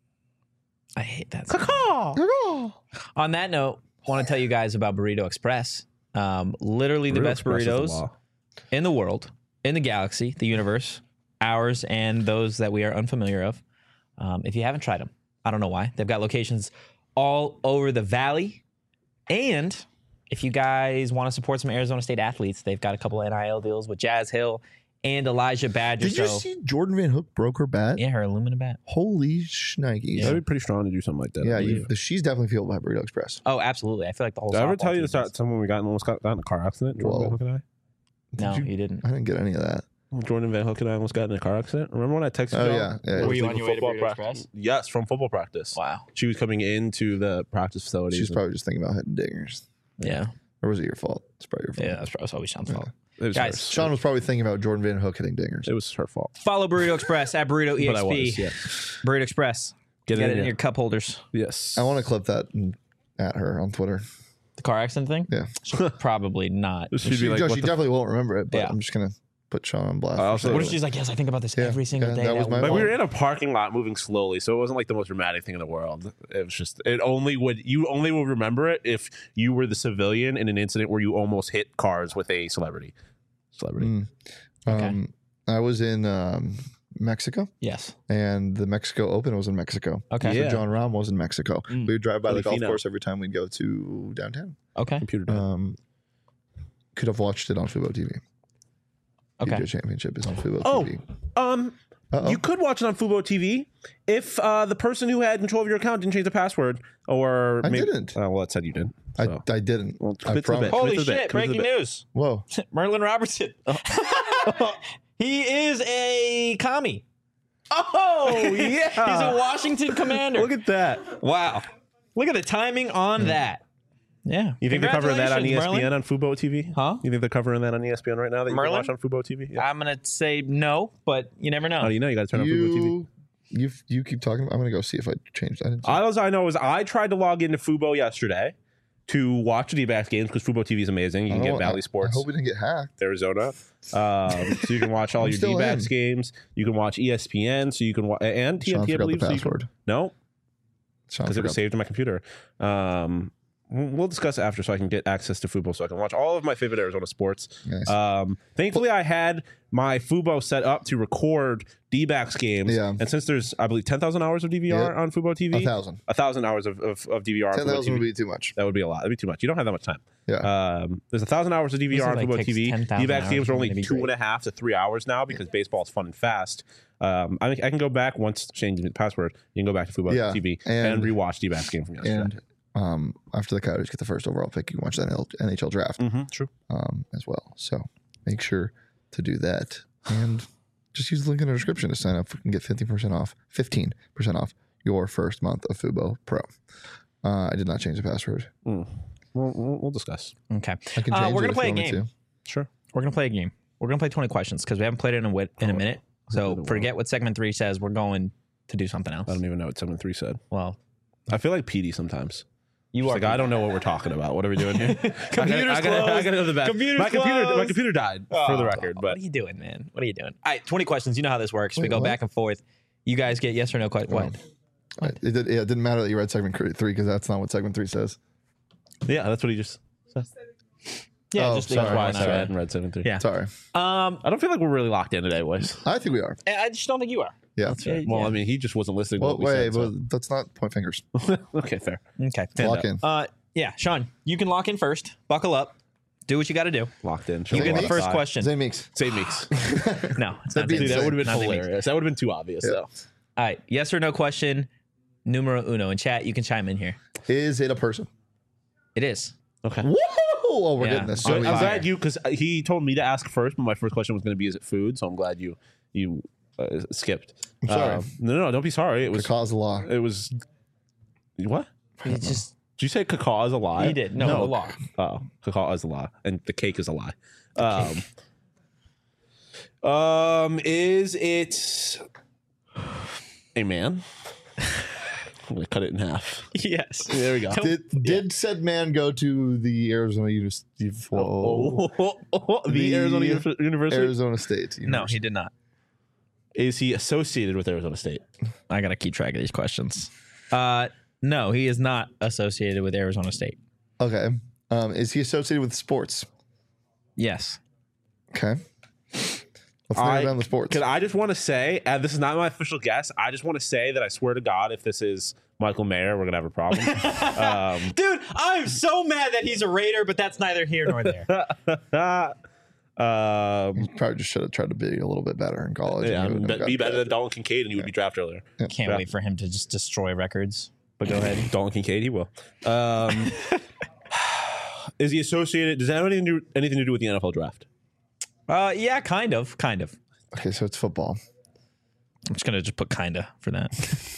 I hate that. Caw. On that note, I want to tell you guys about Burrito Express. Um, literally the Burrito best Express is the burritos law. in the world, in the galaxy, the universe, ours, and those that we are unfamiliar of. Um, if you haven't tried them, I don't know why. They've got locations all over the valley. And if you guys want to support some Arizona State athletes, they've got a couple of N I L deals with Jazz Hill and Elijah Badger. Did you So, see Jordan Van Hook broke her bat? yeah, her aluminum bat. Holy shnikes. That'd be pretty strong to do something like that. Yeah, I you, believe. the, she's definitely fueled by Burrito Express. Oh, absolutely. I feel like the whole Did I ever softball tell you team to start is- someone we got in almost got, got in a car accident? Jordan Whoa. Van Hook and I. No, Did you- you didn't. I didn't get any of that. Jordan Van Hook and I almost got in a car accident. Remember when I texted Oh, you? yeah, yeah. Were you on your way to Burrito practice? Express? Yes, from football practice. Wow. She was coming into the practice facility. She's probably just thinking about hitting dingers. Yeah. Or was it your fault? It's probably your fault. Yeah, that's probably always Sean's fault. it was guys, hers. Sean was probably thinking about Jordan Van Hook hitting dingers. It was her fault. Follow Burrito Express at Burrito But I E X P. was, yeah. Burrito Express. Get, Get it it in in your cup holders. Yes. I want to clip that and at her on Twitter. The car accident thing? Yeah. She'll probably not. She'd She, be like, no, what she the definitely won't remember it, but Yeah. I'm just going to put Sean on blast. I also- What if she's like, yes, I think about this Yeah, every single yeah, day. that was my But we fault. were in a parking lot moving slowly, so it wasn't like the most dramatic thing in the world. It was just it only would you only will remember it if you were the civilian in an incident where you almost hit cars with a celebrity. Celebrity. Mm. Okay. Um, I was in um, Mexico, Yes. and the Mexico Open was in Mexico. Okay. Yeah. So John Rahm was in Mexico. Mm. We would drive by the golf Filipino. course every time we'd go to downtown. Okay. Computer done. Um, could have watched it on Fubo T V. Okay. P G A Championship is on Fubo Oh. T V. um, Uh-oh. you could watch it on Fubo T V if uh, the person who had control of your account didn't change the password, or I maybe, didn't. Uh, well, it said you did. I, So. I didn't. Well, I commit to the promise. bit. Holy Commit to the bit. shit, Commit to the breaking bit. news. Whoa. Merlin Robertson. He is a commie. Oh yeah, He's a Washington commander. Look at that. Wow. Look at the timing on that. Yeah. You think they're covering that on E S P N Merlin? on Fubo T V? Huh? You think they're covering that on E S P N right now that you Merlin? can watch on Fubo T V? Yeah. I'm going to say no, but you never know. How do you know? You got to turn on Fubo T V. You, you, you keep talking. I'm going to go see if I changed. I didn't see. All I know is I tried to log into Fubo yesterday to watch the D-backs games because Fubo T V is amazing. You I can don't get want- Valley I Sports hope we didn't get hacked. Arizona, um, so you can watch all I'm your still D-backs in. games. You can watch E S P N, so you can watch and Sean T N T. I forgot the believe. So you can- password. no, Sean because it was forgot. saved in my computer. Um, we'll discuss after so I can get access to Fubo so I can watch all of my favorite Arizona sports. Nice. Um, thankfully, I had my Fubo set up to record D-backs games. Yeah. And since there's, I believe, ten thousand hours of D V R Yeah. on Fubo T V. A thousand. A thousand hours of, of, of D V R on Ten Fubo thousand T V. would be too much. That would be a lot. That'd be too much. You don't have that much time. Yeah. Um, there's a thousand hours of D V R on This is like Fubo T V. takes ten thousand D-backs hours. games are only That'd be two great. and a half to three hours now because baseball is fun and fast. Um, I, I can go back once Shane gives me the password. You can go back to Fubo Yeah, T V and, and- rewatch D-backs game from yesterday. And um, after the Coyotes get the first overall pick, you can watch the N H L draft mm-hmm, true. um, as well. So make sure to do that. And just use the link in the description to sign up and get fifteen percent off, fifteen percent off your first month of Fubo Pro. Uh, I did not change the password. Mm. We'll, we'll, we'll discuss. Okay. I can Uh, change we're it gonna if play you a want me game. to. Sure. We're gonna play a game. We're gonna play twenty questions because we haven't played it in a, wit- in a minute. So forget what segment three says. We're going to do something else. I don't even know what seven three said. Well, I feel like P D sometimes. you It's are. like I don't know what we're talking about. What are we doing here? Computer's I gotta, I gotta, I closed. gotta go to the bathroom. Computer's my computer, my closed. computer died for Oh, the record. What But are you doing, man? What are you doing? All right, twenty questions. You know how this works. we Wait, go what? back and forth. You guys get yes or no question. What? I- It, did, yeah, it didn't matter that you read segment cr- three because that's not what segment three says. yeah, that's what he just said. Yeah, Oh, just sorry. That's why I ignore said I that. hadn't read seven three. Yeah. Sorry. Um, I don't feel like we're really locked in today, boys. I think we are. I just don't think you are. Yeah. Yeah, Well, yeah. I mean, he just wasn't listening. Well, to what we wait, said, well, let's not point fingers. so. Okay, fair. Okay. Lock in. Uh, yeah, Sean, you can lock in first. Buckle up. Do what you got to do. Locked in. You Show get me the what first I- question. Zay Meeks. Say Meeks. No, it's That'd not be Zay Dude, that Meeks. would have been Not Zay Meeks. hilarious. That would have been too obvious, Yeah. though. All right, yes or no question. Numero uno in chat. You can chime in here. Is it a person? It is. Okay. Woo! Oh, we're Yeah. getting this. So I'm Sweet. glad you, because he told me to ask first, but my first question was going to be, is it food? So I'm glad you you uh, skipped. I'm sorry. Um, no, no, don't be sorry. It was, Cause law. it was, what? It's just Did you say cacaw is a lie? he did. No, the law. Oh, cacaw is a lie, and the cake is a lie. Um, um, is it a man? I'm gonna cut it in half. Yes. There we go. Did did said man go to the Arizona University? Oh, the, The Arizona Uni- University. Arizona State. No, University. he did not. Is he associated with Arizona State? I gotta keep track of these questions. Uh, no, he is not associated with Arizona State. Okay. Um, is he associated with sports? Yes. Okay. Let's I- narrow down the sports. Because I just want to say, and this is not my official guess. I just want to say that I swear to God, if this is Michael Mayer, we're gonna have a problem. um, Dude, I'm so mad that he's a Raider, but that's neither here nor there. um, Probably just should have tried to be a little bit better in college. yeah, and I you mean, wouldn't have be got better that. than Dalton Kincaid, and you would be drafted earlier. Can't Yeah. wait for him to just destroy records. But go ahead. Dalton Kincaid, he will. Um, is he associated? Does that have anything to do, anything to do with the N F L draft? Uh, yeah, kind of, kind of. Okay, so it's football. I'm just gonna just put kinda for that.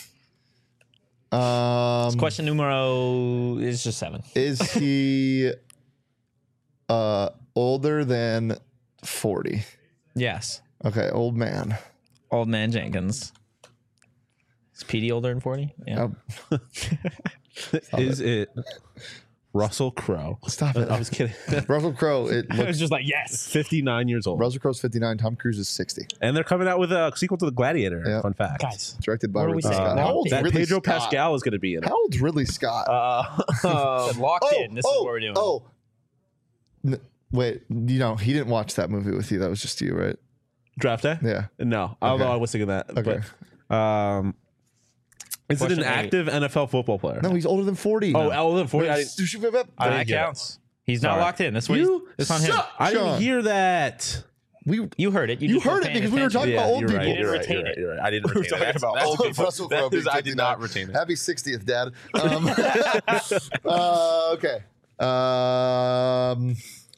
Um, Question numero is just seven. is he uh, older than forty? Yes. Okay, old man. Old man Jenkins. Is P D older than forty? Yeah. Oh, Is it Russell Crowe? stop it. I was kidding. Russell Crowe. It I was looks. just like, yes. fifty-nine years old, Russell Crowe's fifty-nine. Tom Cruise is sixty. and they're coming out with a sequel to the Gladiator. Yeah. Fun fact, Guys. Directed by What are we Ridley saying? Scott. Locked How old's in. that Ridley Pedro Scott? Pascal is going to be in it. How old's Ridley Scott? Uh, Locked oh, in. This oh, is what we're doing. Oh, N- wait. You know, he didn't watch that movie with you. That was just you, right? draft day? Yeah. No, although Okay. I was thinking that. Okay. But, um, is it Question an eight. active N F L football player? No, he's older than forty. Oh, no. older than forty. I Wait, didn't, you should- that I didn't get it. counts. He's not Sorry. locked in. That's what You he's. It's on him. suck. I didn't Sean. hear that. we You heard it. You, You just heard weren't it paying because we were attention. talking about old you're people. right. You didn't You're right. retain You're right. it. You're right. I didn't We were retain talking it. about That's- old that's- people. Russell that Crowe is- being I did not fifty-nine. retain it. Happy sixtieth, Dad. Um, uh, okay. Um,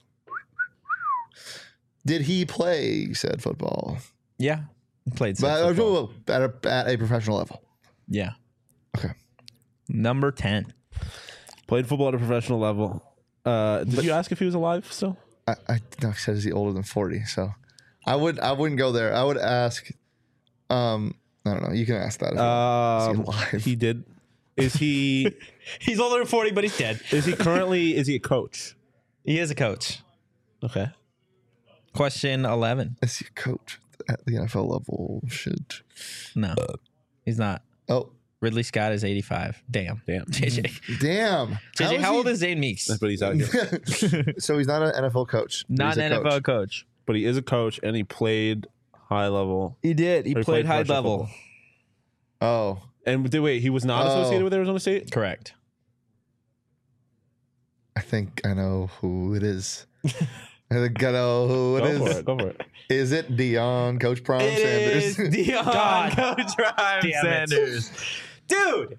did he play? You said football, Yeah. He played. but some uh, football. at a, at a professional level. Yeah. Okay. Number ten. Played football at a professional level. Uh, did you ask if he was alive still? I, I no, he said is he older than forty? So I would I wouldn't go there. I would ask. Um, I don't know. You can ask that. As well. Is he Um, alive? he did. Is he? He's older than forty, but he's dead. Is he currently? Is he a coach? He is a coach. Okay. Question eleven. Is he a coach at the N F L level? Should No, he's not. oh Ridley Scott is eighty-five. Damn. Damn. J J. Damn. J J, is how he- old is Zane Meeks? But he's out here. So he's not an N F L coach. but Not he's a an N F L coach. coach. But he is a coach, and he played high level. He did. He Or he played played high commercial level. football. Oh, And did- wait, he was not associated Oh. with Arizona State? Correct. I think I know who it is. I think I know who it Go is. for it. Go for it. Is it Dion, Coach Prime It is Sanders? Dion God Coach Ryan damn it. Sanders. Dude.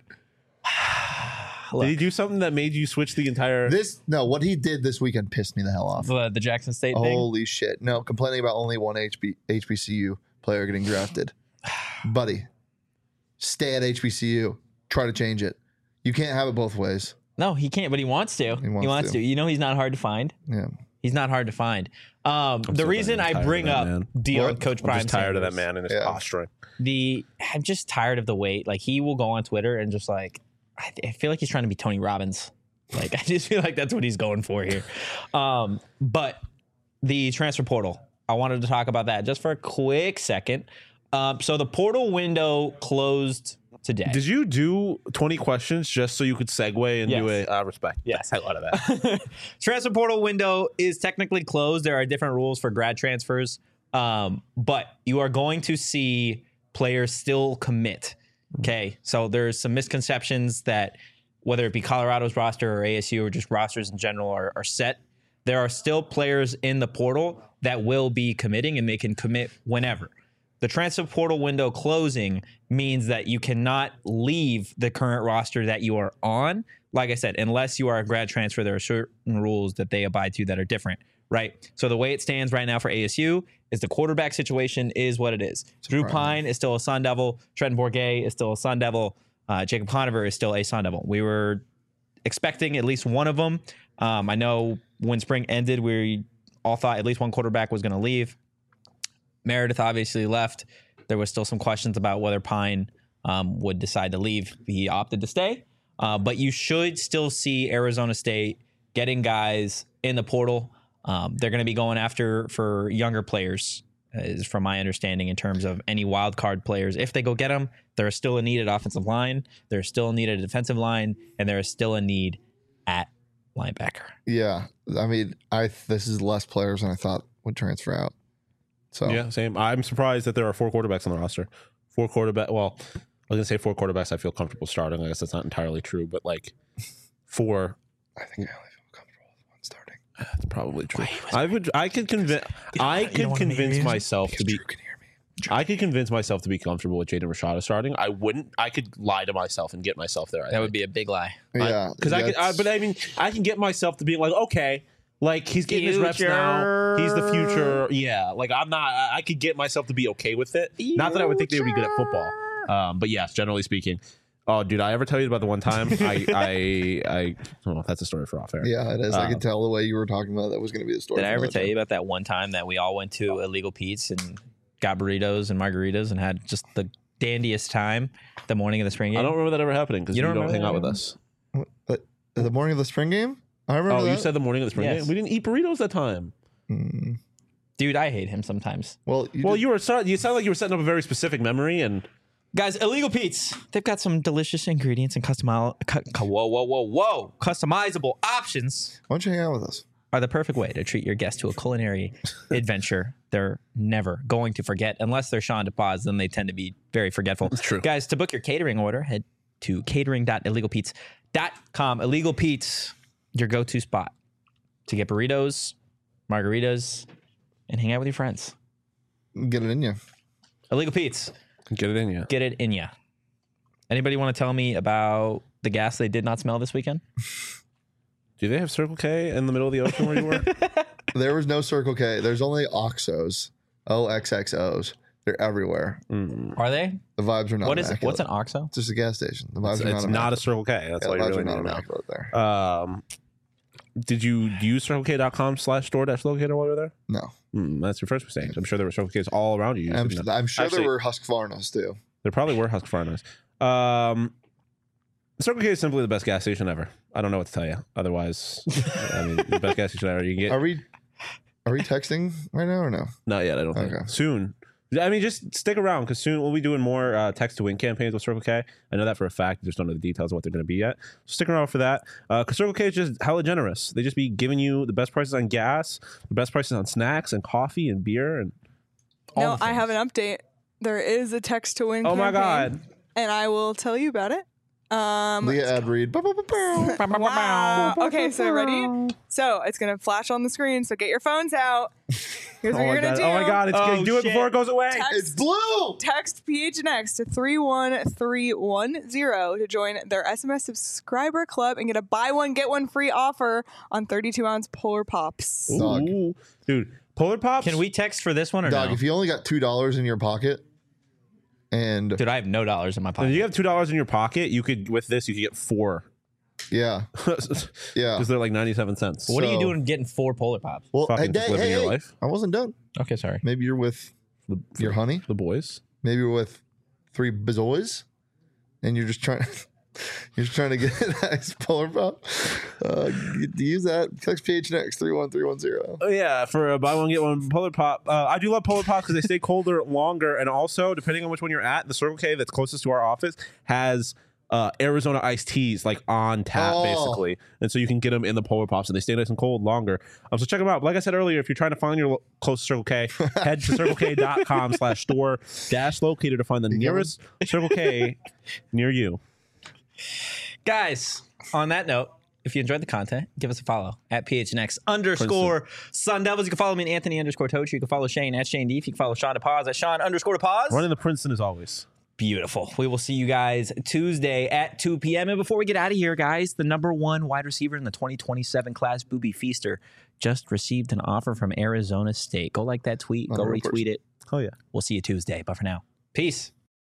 Did he do something that made you switch the entire? This no, what he did this weekend pissed me the hell off. The, the Jackson State thing? Holy shit! No, complaining about only one H B, H B C U player getting drafted. Buddy, stay at H B C U. Try to change it. You can't have it both ways. No, he can't, but he wants to. He wants wants, to. to. You know he's not hard to find. Yeah. He's not hard to find. Um, the so reason tired I of bring that up man. Dion What? Coach I'm Prime just tired of that Sanders, man and his Yeah. posturing. The I'm just tired of the wait. Like he will go on Twitter and just like I, I feel like he's trying to be Tony Robbins. Like I just feel like that's what he's going for here. Um, but the transfer portal, I wanted to talk about that just for a quick second. Um, so the portal window closed today. Did you do twenty questions just so you could segue and do Yes. a uh, respect? Yes. I love that. Transfer portal window is technically closed. There are different rules for grad transfers, um, but you are going to see players still commit. Okay, so there's some misconceptions that whether it be Colorado's roster or A S U or just rosters in general are, are set. There are still players in the portal that will be committing, and they can commit whenever. The transfer portal window closing means that you cannot leave the current roster that you are on. Like I said, unless you are a grad transfer, there are certain rules that they abide to that are different, right? So the way it stands right now for A S U is the quarterback situation is what it is. Drew Pine is still a Sun Devil. Trenton Bourget is still a Sun Devil. Uh, Jacob Conover is still a Sun Devil. We were expecting at least one of them. Um, I know when spring ended, we all thought at least one quarterback was going to leave. Meredith obviously left. There was still some questions about whether Pine um, would decide to leave. He opted to stay. Uh, but you should still see Arizona State getting guys in the portal. Um, they're going to be going after for younger players, is from my understanding, in terms of any wild card players. If they go get them, there is still a need at offensive line. There's still a need at defensive line, and there is still a need at linebacker. Yeah. I mean, I this is less players than I thought would transfer out. So Yeah, same. I'm surprised that there are four quarterbacks on the roster. Four quarterback. Well, I was gonna say four quarterbacks. I feel comfortable starting. I guess that's not entirely true, but like four. I think I only feel comfortable with one starting. That's probably true. I would. I could convince. I could convince myself to be. Drew can hear me. I could convince myself to be comfortable with Jaden Rashada starting. I wouldn't. I could lie to myself and get myself there. I That would be a big lie. Yeah. because I, could. I, that's- but I mean, I can get myself to being like, okay, like he's getting his reps now. He's the future. Yeah, like I'm not. I I could get myself to be okay with it. Not that I would think they would be good at football. Um, but yes, generally speaking. Oh, dude, I ever tell you about the one time I I I oh, that's a story for off air. Yeah, it is. I Uh, could tell the way you were talking about that was going to be the story. Did I for ever that tell show. you about that one time that we all went to Illegal Pete's and got burritos and margaritas and had just the dandiest time the morning of the spring game? I don't remember that ever happening because You you, don't don't, remember hang that out with ever? us. But the morning of the spring game? I remember Oh, that. you said the morning of the spring Yes. game. We didn't eat burritos that time. Mm. Dude, I hate him sometimes. Well, you Well, did- you were start, you sound like you were setting up a very specific memory, and Guys, Illegal Pete's, they've got some delicious ingredients and customi- cu- cu- whoa, whoa, whoa, whoa, customizable options why don't you hang out with us? are the perfect way to treat your guests to a culinary adventure they're never going to forget. Unless they're Sean DePaz, then they tend to be very forgetful. That's true. Guys, to book your catering order, head to catering dot illegal pete's dot com. Illegal Pete's, your go-to spot to get burritos, margaritas, and hang out with your friends. Get it in you. Illegal Pete's, get it in you. get it in ya. Anybody want to tell me about the gas they did not smell this weekend? Do they have Circle K in the middle of the ocean where you were? There was no Circle K. There's only Oxos. O X X Os. They're everywhere. Mm. Are they? The vibes are not What is it? immaculate. What's an OXO? It's just a gas station. The vibes It's, are it's not not a immaculate. Circle K. That's Yeah, all the you vibes really are need not to know. immaculate there. Um, did you use circle k dot com slash store dash locator while you were there? No. Mm, that's your first mistake. I'm sure there were Circle K's all around you. You I'm, just didn't know. I'm sure Actually, there were Husqvarnas too. There probably were Husqvarnas. Um, Circle K is simply the best gas station ever. I don't know what to tell you. Otherwise, I mean, the best gas station ever. You can get. Are we are we texting right now or no? Not yet. I don't think. Okay. Soon. I mean, just stick around because soon we'll be doing more uh, text to win campaigns with Circle K. I know that for a fact. I just don't know the details of what they're going to be yet. So stick around for that. Because uh, Circle K is just hella generous. They just be giving you the best prices on gas, the best prices on snacks and coffee and beer and all No, the I things. have an update. There is a text to win. Oh my campaign, God. And I will tell you about it. Um, Leah ad read. wow. Okay, so ready? So it's gonna flash on the screen. So get your phones out. Here's what Oh you're my gonna God. do. Oh my God. It's Oh, good. Do it shit. before it goes away. Text, It's blue. text P H N X to three one three one zero to join their S M S subscriber club and get a buy one get one free offer on thirty-two ounce Polar Pops. Dog. Ooh. Dude, Polar Pops. Can we text for this one or Dog, no? if you only got two dollars in your pocket, and Dude, I have no dollars in my If pocket. you have two dollars in your pocket, you could, with this, you could get four. yeah, Because yeah. they're like ninety-seven cents. what are you So- doing getting four Polar Pops? Well, Fucking just living your life. I wasn't done. Okay, sorry. Maybe you're with The, your honey. the boys. Maybe you're with three bazoys, and you're just trying. You're just trying to get a nice Polar Pop. Uh, you- use that. Text P H N X three one three one zero. Oh yeah, for a buy one get one Polar Pop. Uh, I do love Polar Pops because they stay colder longer, and also depending on which one you're at, the Circle K that's closest to our office has uh, Arizona iced teas like on tap Oh. basically, and so you can get them in the Polar Pops, and they stay nice and cold longer. Um, so check them out. Like I said earlier, if you're trying to find your lo- closest Circle K, head to circle k dot com slash store dash locator to find the nearest Circle K near you. Guys, on that note, if you enjoyed the content, give us a follow at P H N X underscore Sun Devils. You can follow me at Anthony underscore Toach. You can follow Shane at Shane Deef. You can follow Sean DePaz at Sean underscore DePaz. Running the Princeton as always. Beautiful. We will see you guys Tuesday at two p.m. And before we get out of here, guys, the number one wide receiver in the twenty twenty-seven class, Booby Feaster, just received an offer from Arizona State. Go like that tweet. Go Not a real retweet it. Oh yeah. We'll see you Tuesday. But for now, peace.